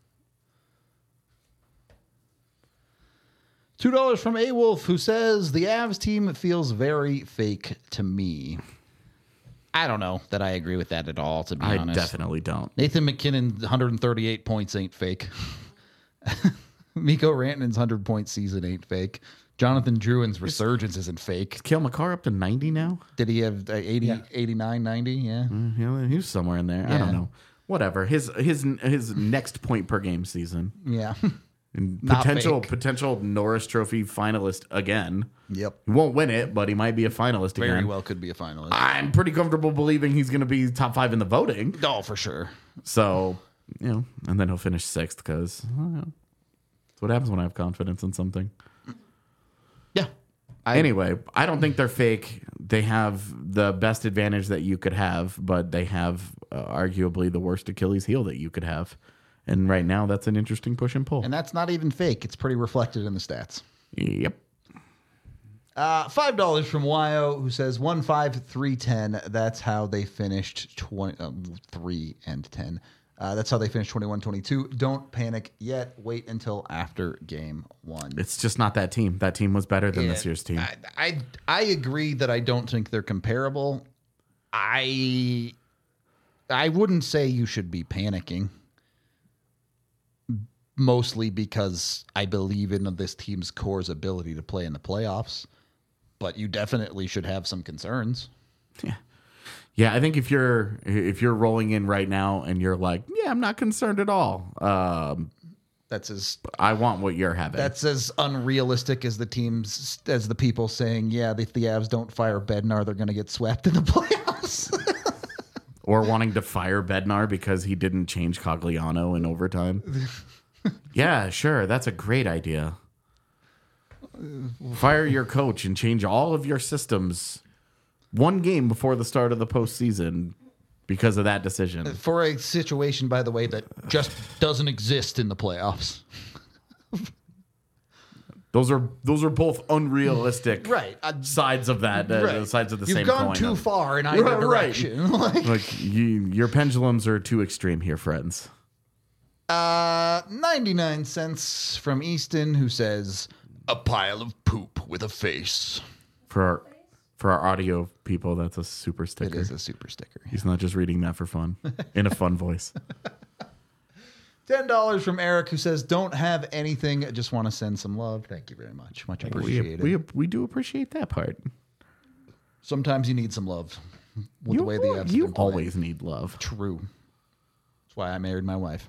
Two dollars from A Wolf, who says the Avs team feels very fake to me. I don't know that I agree with that at all. To be I honest, definitely don't. Nathan McKinnon, one hundred thirty-eight points ain't fake. Mikko Rantanen's one hundred point season ain't fake. Jonathan Druin's resurgence isn't fake. Kale McCarr up to ninety now? Did he have uh, eighty, Yeah. eighty-nine, ninety? Yeah. Yeah, he was somewhere in there. I Yeah. don't know. Whatever. His his his next point per game season. Yeah. And Not potential fake. potential Norris Trophy finalist again. Yep. He won't win it, but he might be a finalist Very again. well could be a finalist. I'm pretty comfortable believing he's going to be top five in the voting. Oh, for sure. So, you know, and then he'll finish sixth because that's what happens when I have confidence in something. Yeah. I, Anyway, I don't think they're fake. They have the best advantage that you could have, but they have uh, arguably the worst Achilles heel that you could have. And right now, that's an interesting push and pull. and that's not even fake. It's pretty reflected in the stats. Yep. Uh, five dollars from Wyo, who says one five three ten. That's how they finished twenty um, three and ten. Uh, that's how they finished twenty one twenty two. Don't panic yet. Wait until after game one. It's just not that team. That team was better than this Yeah, year's team. I, I I agree that I don't think they're comparable. I I wouldn't say you should be panicking. Mostly because I believe in this team's core's ability to play in the playoffs. But you definitely should have some concerns. Yeah. Yeah, I think if you're if you're rolling in right now and you're like, yeah, I'm not concerned at all. Um, That's as I want what you're having. that's as unrealistic as the teams as the people saying, yeah, if the Avs don't fire Bednar, they're going to get swept in the playoffs. Or wanting to fire Bednar because he didn't change Cogliano in overtime. Yeah, sure. That's a great idea. Fire your coach and change all of your systems one game before the start of the postseason because of that decision. For a situation, by the way, that just doesn't exist in the playoffs. Those are those are both unrealistic Right. Uh, sides of that, uh, Right. sides of the You've same gone coin. too far in either Right, right. direction. Like, Like you, your pendulums are too extreme here, friends. uh, ninety-nine cents from Easton, who says, a pile of poop with a face. For our for our audio people, that's a super It sticker. is a super sticker. He's not just reading that for fun in a fun voice. ten dollars from Eric, who says, don't have anything. Just want to send some love. Thank you very much. Much We, appreciated. we we do appreciate that part. Sometimes you need some love with You, the way the Avs have you been playing. always need love. True. That's why I married my wife.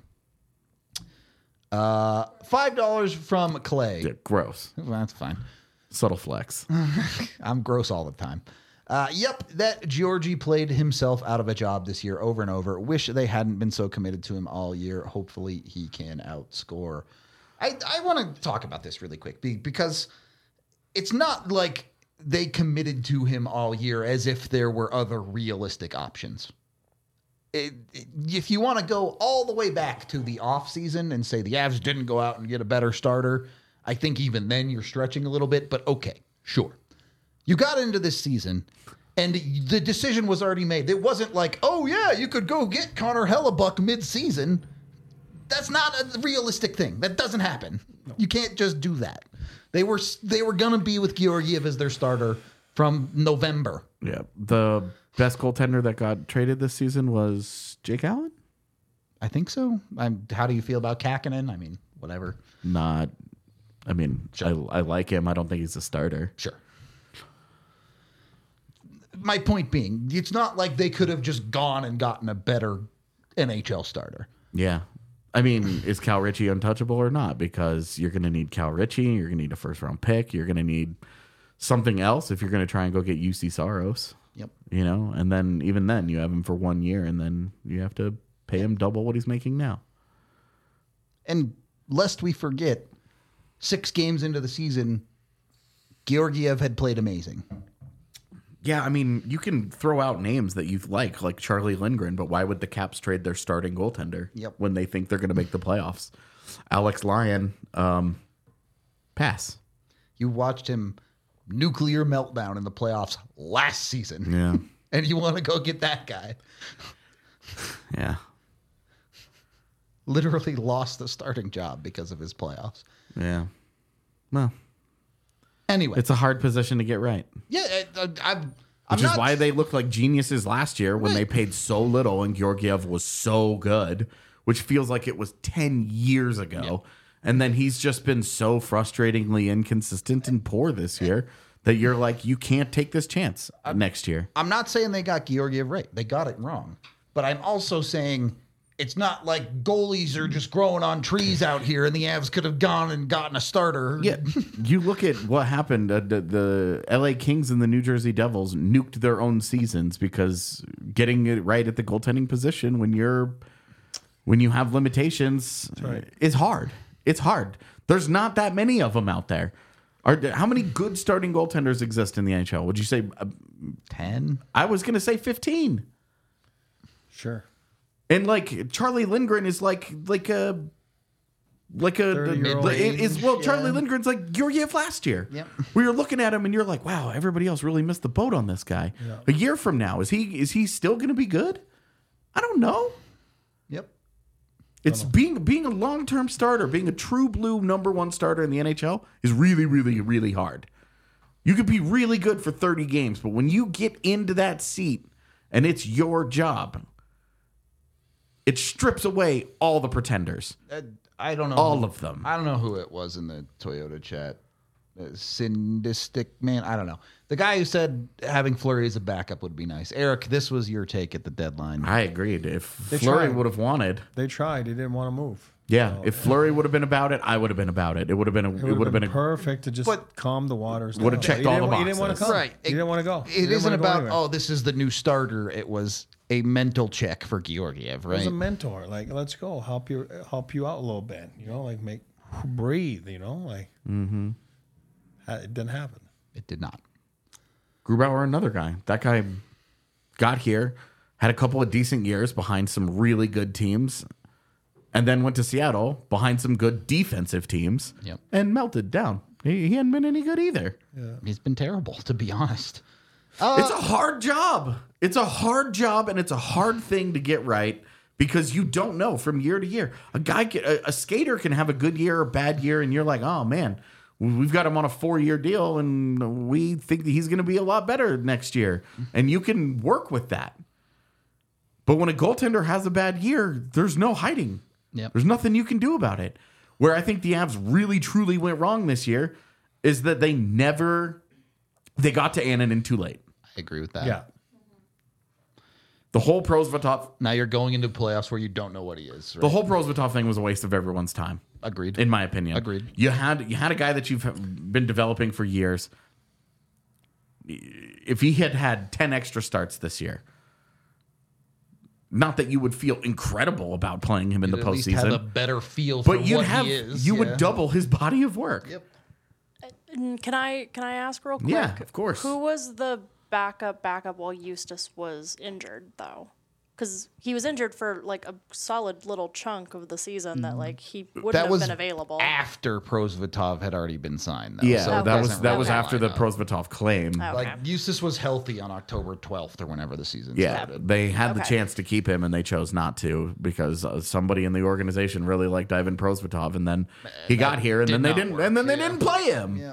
Uh, five dollars from Clay. Yeah, gross. Well, that's fine. Subtle flex. I'm gross all the time. Uh, yep, that Georgie played himself out of a job this year over and over. Wish they hadn't been so committed to him all year. Hopefully he can outscore. I, I want to talk about this really quick be- because it's not like they committed to him all year as if there were other realistic options. It, it, if you want to go all the way back to the offseason and say the Avs didn't go out and get a better starter, I think even then you're stretching a little bit, but okay, sure. You got into this season, and the decision was already made. It wasn't like, oh, yeah, you could go get Connor Hellebuck mid-season. That's not a realistic thing. That doesn't happen. No. You can't just do that. They were they were going to be with Georgiev as their starter from November. Yeah, the best goaltender that got traded this season was Jake Allen? I think so. I'm, how do you feel about Kakkonen? I mean, whatever. Not, I mean, Sure. I, I like him. I don't think he's a starter. Sure. My point being, it's not like they could have just gone and gotten a better N H L starter. Yeah. I mean, is Cal Ritchie untouchable or not? Because you're going to need Cal Ritchie. You're going to need a first round pick. You're going to need something else if you're going to try and go get U C Saros. Yep. You know, and then even then you have him for one year and then you have to pay him double what he's making now. And lest we forget, six games into the season, Georgiev had played amazing. Yeah, I mean, you can throw out names that you like, like Charlie Lindgren, but why would the Caps trade their starting goaltender Yep. when they think they're going to make the playoffs? Alex Lyon, um, pass. You watched him nuclear meltdown in the playoffs last season. Yeah. And you want to go get that guy. Yeah. Literally lost the starting job because of his playoffs. Yeah. Well, Anyway. it's a hard position to get right. Yeah, I, I, I'm, Which I'm is not, why they looked like geniuses last year when they paid so little and Georgiev was so good, which feels like it was ten years ago. And then he's just been so frustratingly inconsistent and poor this year that you're like, you can't take this chance next year. I'm not saying they got Georgiev right. They got it wrong. But I'm also saying it's not like goalies are just growing on trees out here and the Avs could have gone and gotten a starter. Yeah, you look at what happened. Uh, the, the L A Kings and the New Jersey Devils nuked their own seasons because getting it right at the goaltending position when you're when you have limitations right. is hard. It's hard. There's not that many of them out there. Are how many good starting goaltenders exist in the N H L? Would you say uh, ten? I was going to say fifteen. Sure. And like Charlie Lindgren is like like a like a thirty-year-old the- it is well age, Charlie yeah. Lindgren's like Georgiev last year. Yep. We were looking at him and you're like, wow, everybody else really missed the boat on this guy. Yeah. A year from now, is he is he still going to be good? I don't know. Yep. It's being being a long term starter, being a true blue number one starter in the N H L is really really really hard. You could be really good for thirty games, but when you get into that seat and it's your job, it strips away all the pretenders. Uh, I don't know. All who- of them. I don't know who it was in the Toyota chat. Uh, Syndistic man. I don't know. The guy who said having Fleury as a backup would be nice. Eric, this was your take at the deadline. I agreed. If They Fleury tried. would have wanted, They tried. They didn't want to move. yeah, So, if Fleury would have been about it, I would have been about it. It would have been a, it it would have been, a perfect to just But- calm the waters. Would have down. checked He all didn't the wa- He didn't want to boxes. come. Right. He didn't want to go. He It didn't isn't wanna go about, anywhere. oh, this is the new starter. It was a mental check for Georgiev, He was right? a mentor. Like, let's go. Help you. Help you out a little bit. You know, like make breathe. You know, like Mm-hmm. it didn't happen. It did not. Grubauer, another guy. That guy got here, had a couple of decent years behind some really good teams, and then went to Seattle behind some good defensive teams Yep. and melted down. He, he hadn't been any good either. He's been terrible, to be honest. It's a hard job. It's a hard job, and it's a hard thing to get right because you don't know from year to year. A guy, can, a, a skater can have a good year or a bad year, and you're like, oh man, we've got him on a four-year deal, and we think that he's going to be a lot better next year, and you can work with that. But when a goaltender has a bad year, there's no hiding. Yep. There's nothing you can do about it. Where I think the Avs really truly went wrong this year is that they never they got to Annunen too late. I agree with that. Yeah. The whole Prosvetov, Now you're going into playoffs where you don't know what he is. Right? the whole Prosvetov thing was a waste of everyone's time, Agreed. in my opinion. Agreed. You had you had a guy that you've been developing for years. If he had had ten extra starts this year, not that you would feel incredible about playing him in You'd the at least have a postseason, better feel for but you'd what have he is. you Yeah. would double his body of work. Yep. Mm, Can I can I ask real quick? Yeah, of course. Who was the backup backup while Eustace was injured though? Because he was injured for like a solid little chunk of the season that like he wouldn't That have was been available. after Prosvetov had already been signed. Though, Yeah, so that it was doesn't that really was after line the up. Prosvetov claim. Okay. Like Eustace was healthy on October twelfth or whenever the season Yeah, started. they had the Okay. chance to keep him and they chose not to because uh, somebody in the organization really liked Ivan Prosvetov, and then he got here and did then they not didn't work, and then they yeah. didn't play him. Yeah.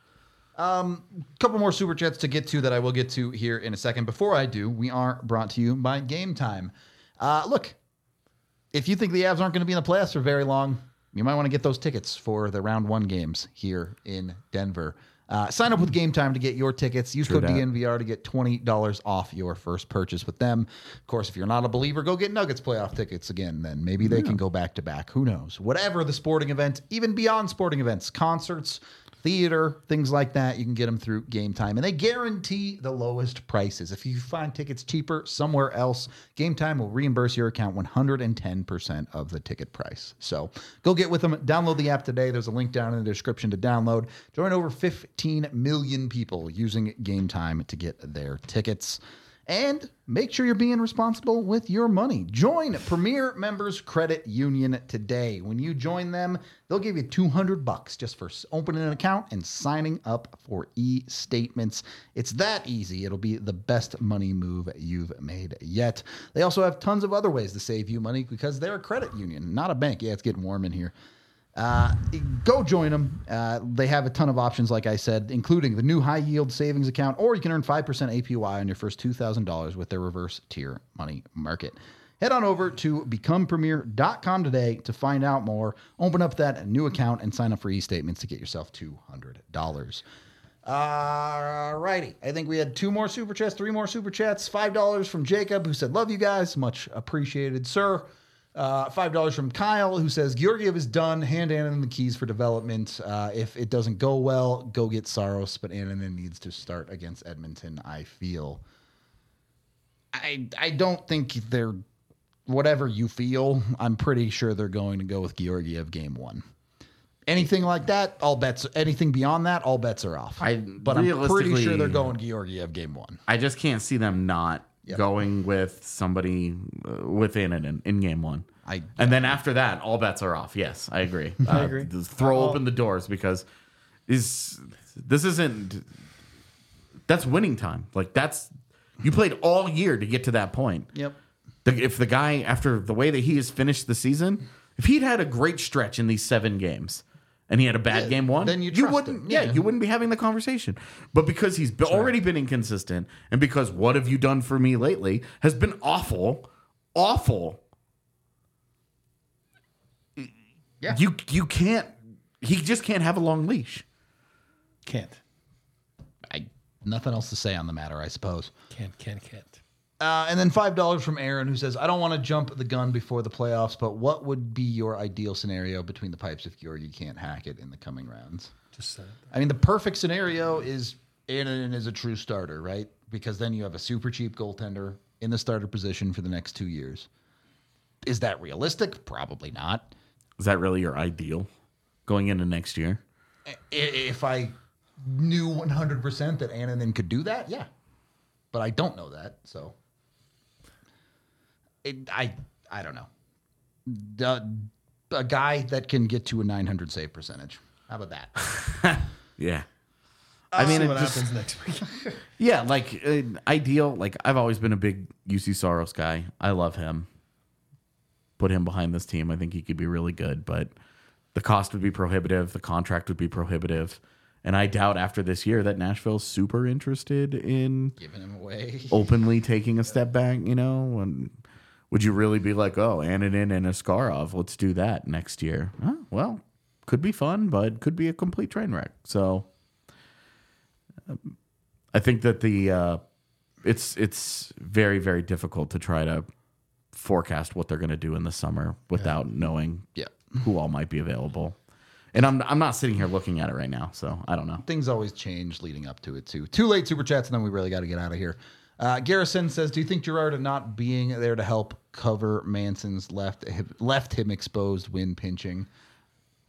Um, couple more super chats to get to that I will get to here in a second. Before I do, we are brought to you by Game Time. Uh, look, if you think the Avs aren't going to be in the playoffs for very long, you might want to get those tickets for the round one games here in Denver. Uh, sign up with Game Time to get your tickets. Use True code that. D N V R to get twenty dollars off your first purchase with them. Of course, if you're not a believer, go get Nuggets playoff tickets again. Then maybe they can go back to back. Who knows? Whatever the sporting event, even beyond sporting events, concerts, theater, things like that, you can get them through Game Time. And they guarantee the lowest prices. If you find tickets cheaper somewhere else, Game Time will reimburse your account one hundred ten percent of the ticket price. So go get with them. Download the app today. There's a link down in the description to download. Join over fifteen million people using Game Time to get their tickets. And make sure you're being responsible with your money. Join Premier Members Credit Union today. When you join them, they'll give you two hundred bucks just for opening an account and signing up for e-statements. It's that easy. It'll be the best money move you've made yet. They also have tons of other ways to save you money because they're a credit union, not a bank. Yeah, it's getting warm in here. Uh, go join them. Uh, they have a ton of options, like I said, including the new high yield savings account, or you can earn five percent A P Y on your first two thousand dollars with their reverse tier money market. Head on over to become premier dot com today to find out more. Open up that new account and sign up for e-statements to get yourself two hundred dollars. All righty. I think we had two more super chats, three more super chats. five dollars from Jacob, who said, love you guys. Much appreciated, sir. Uh, five dollars from Kyle, who says, Georgiev is done. Hand Annunen the keys for development. Uh, if it doesn't go well, go get Saros, but Annunen needs to start against Edmonton, I feel. I I don't think they're, whatever you feel, I'm pretty sure they're going to go with Georgiev game one. Anything like that, all bets, anything beyond that, all bets are off. I- but I'm pretty realistically- sure they're going Georgiev game one. I just can't see them not Yep. going with somebody uh, within it in, in game one. I- and then after that, all bets are off. Yes, I agree. I agree. Just throw I'll- open the doors because is this isn't that's winning time. Like that's you played all year to get to that point. Yep. The, if the guy after the way that he has finished the season, if he'd had a great stretch in these seven games. And he had a bad Yeah, game one. then you trust wouldn't, him. yeah. Yeah. you wouldn't be having the conversation. But because he's be- already been inconsistent, and because what have you done for me lately has been awful, awful. Yeah. you you can't. He just can't have a long leash. Can't. I nothing else to say on the matter, I suppose. Can't, can't, can't. Uh, and then five dollars from Aaron, who says, I don't want to jump the gun before the playoffs, but what would be your ideal scenario between the pipes if Georgie can't hack it in the coming rounds? Just said it. I mean, the perfect scenario is Annunen is a true starter, right? Because then you have a super cheap goaltender in the starter position for the next two years. Is that realistic? Probably not. Is that really your ideal going into next year? I- If I knew one hundred percent that Annunen could do that, yeah. But I don't know that, so... It, I I don't know. The, a guy that can get to a nine hundred save percentage. How about that? Yeah. I mean, it what just- happens next week. Yeah, like uh, ideal. Like I've always been a big U C Saros guy. I love him. Put him behind this team. I think he could be really good, but the cost would be prohibitive. The contract would be prohibitive, and I doubt after this year that Nashville's super interested in Giving him away. openly taking a step back. You know, and would you really be like, oh, Annunen and Askarov, let's do that next year? Huh, well, could be fun, but could be a complete train wreck. So. I think that the uh, it's it's very very difficult to try to forecast what they're going to do in the summer without knowing Yeah. who all might be available. And I'm I'm not sitting here looking at it right now, so I don't know. Things always change leading up to it, too. Two late super chats, and then we really got to get out of here. Uh, Garrison says, do you think Girardi not being there to help cover Manson's left left him exposed when pinching?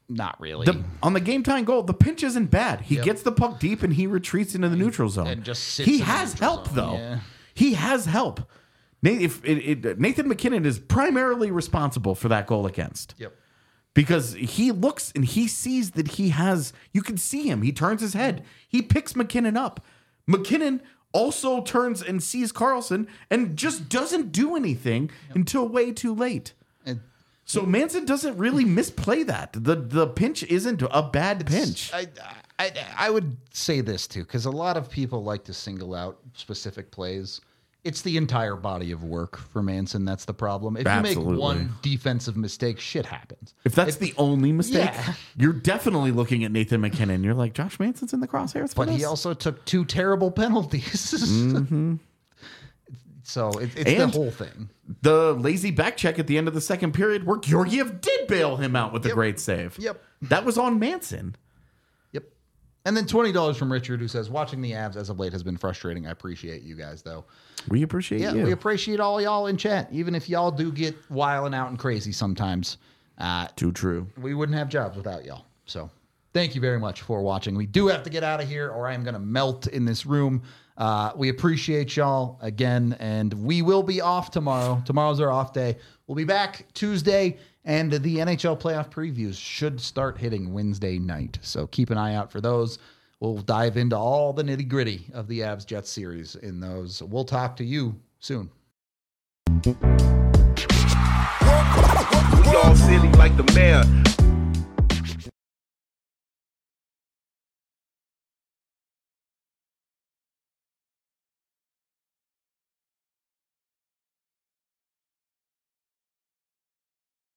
Not really. The, on the game time goal, the pinch isn't bad. He Yep. gets the puck deep and he retreats into the neutral zone. and just sits he in the has neutral help zone, though. yeah. He has help. Nathan, if it, it, Nathan MacKinnon is primarily responsible for that goal against. Yep. Because he looks and he sees that he has. You can see him. He turns his head. He picks MacKinnon up. MacKinnon also turns and sees Carlson and just doesn't do anything yep. until way too late. And So Manson doesn't really misplay that. The the pinch isn't a bad pinch. I, I I would say this too, because a lot of people like to single out specific plays. It's the entire body of work for Manson that's the problem. If Absolutely. you make one defensive mistake, shit happens. If that's the only mistake, Yeah. you're definitely looking at Nathan MacKinnon. You're like, Josh Manson's in the crosshairs for But he this? also took two terrible penalties. Mm-hmm. So it, it's And- the whole thing. The lazy back check at the end of the second period where Georgiev did bail him out with a Yep. great save. Yep. That was on Manson. Yep. And then twenty dollars from Richard, who says, watching the Avs as of late has been frustrating. I appreciate you guys, though. We appreciate Yeah, you. we appreciate all y'all in chat. Even if y'all do get wilding out and crazy sometimes, uh, Too true. we wouldn't have jobs without y'all. So thank you very much for watching. We do have to get out of here or I am going to melt in this room. Uh, we appreciate y'all again, and we will be off tomorrow. Tomorrow's our off day. We'll be back Tuesday, and the N H L playoff previews should start hitting Wednesday night. So keep an eye out for those. We'll dive into all the nitty gritty of the Avs Jets series in those. We'll talk to you soon. Y'all silly like the mayor.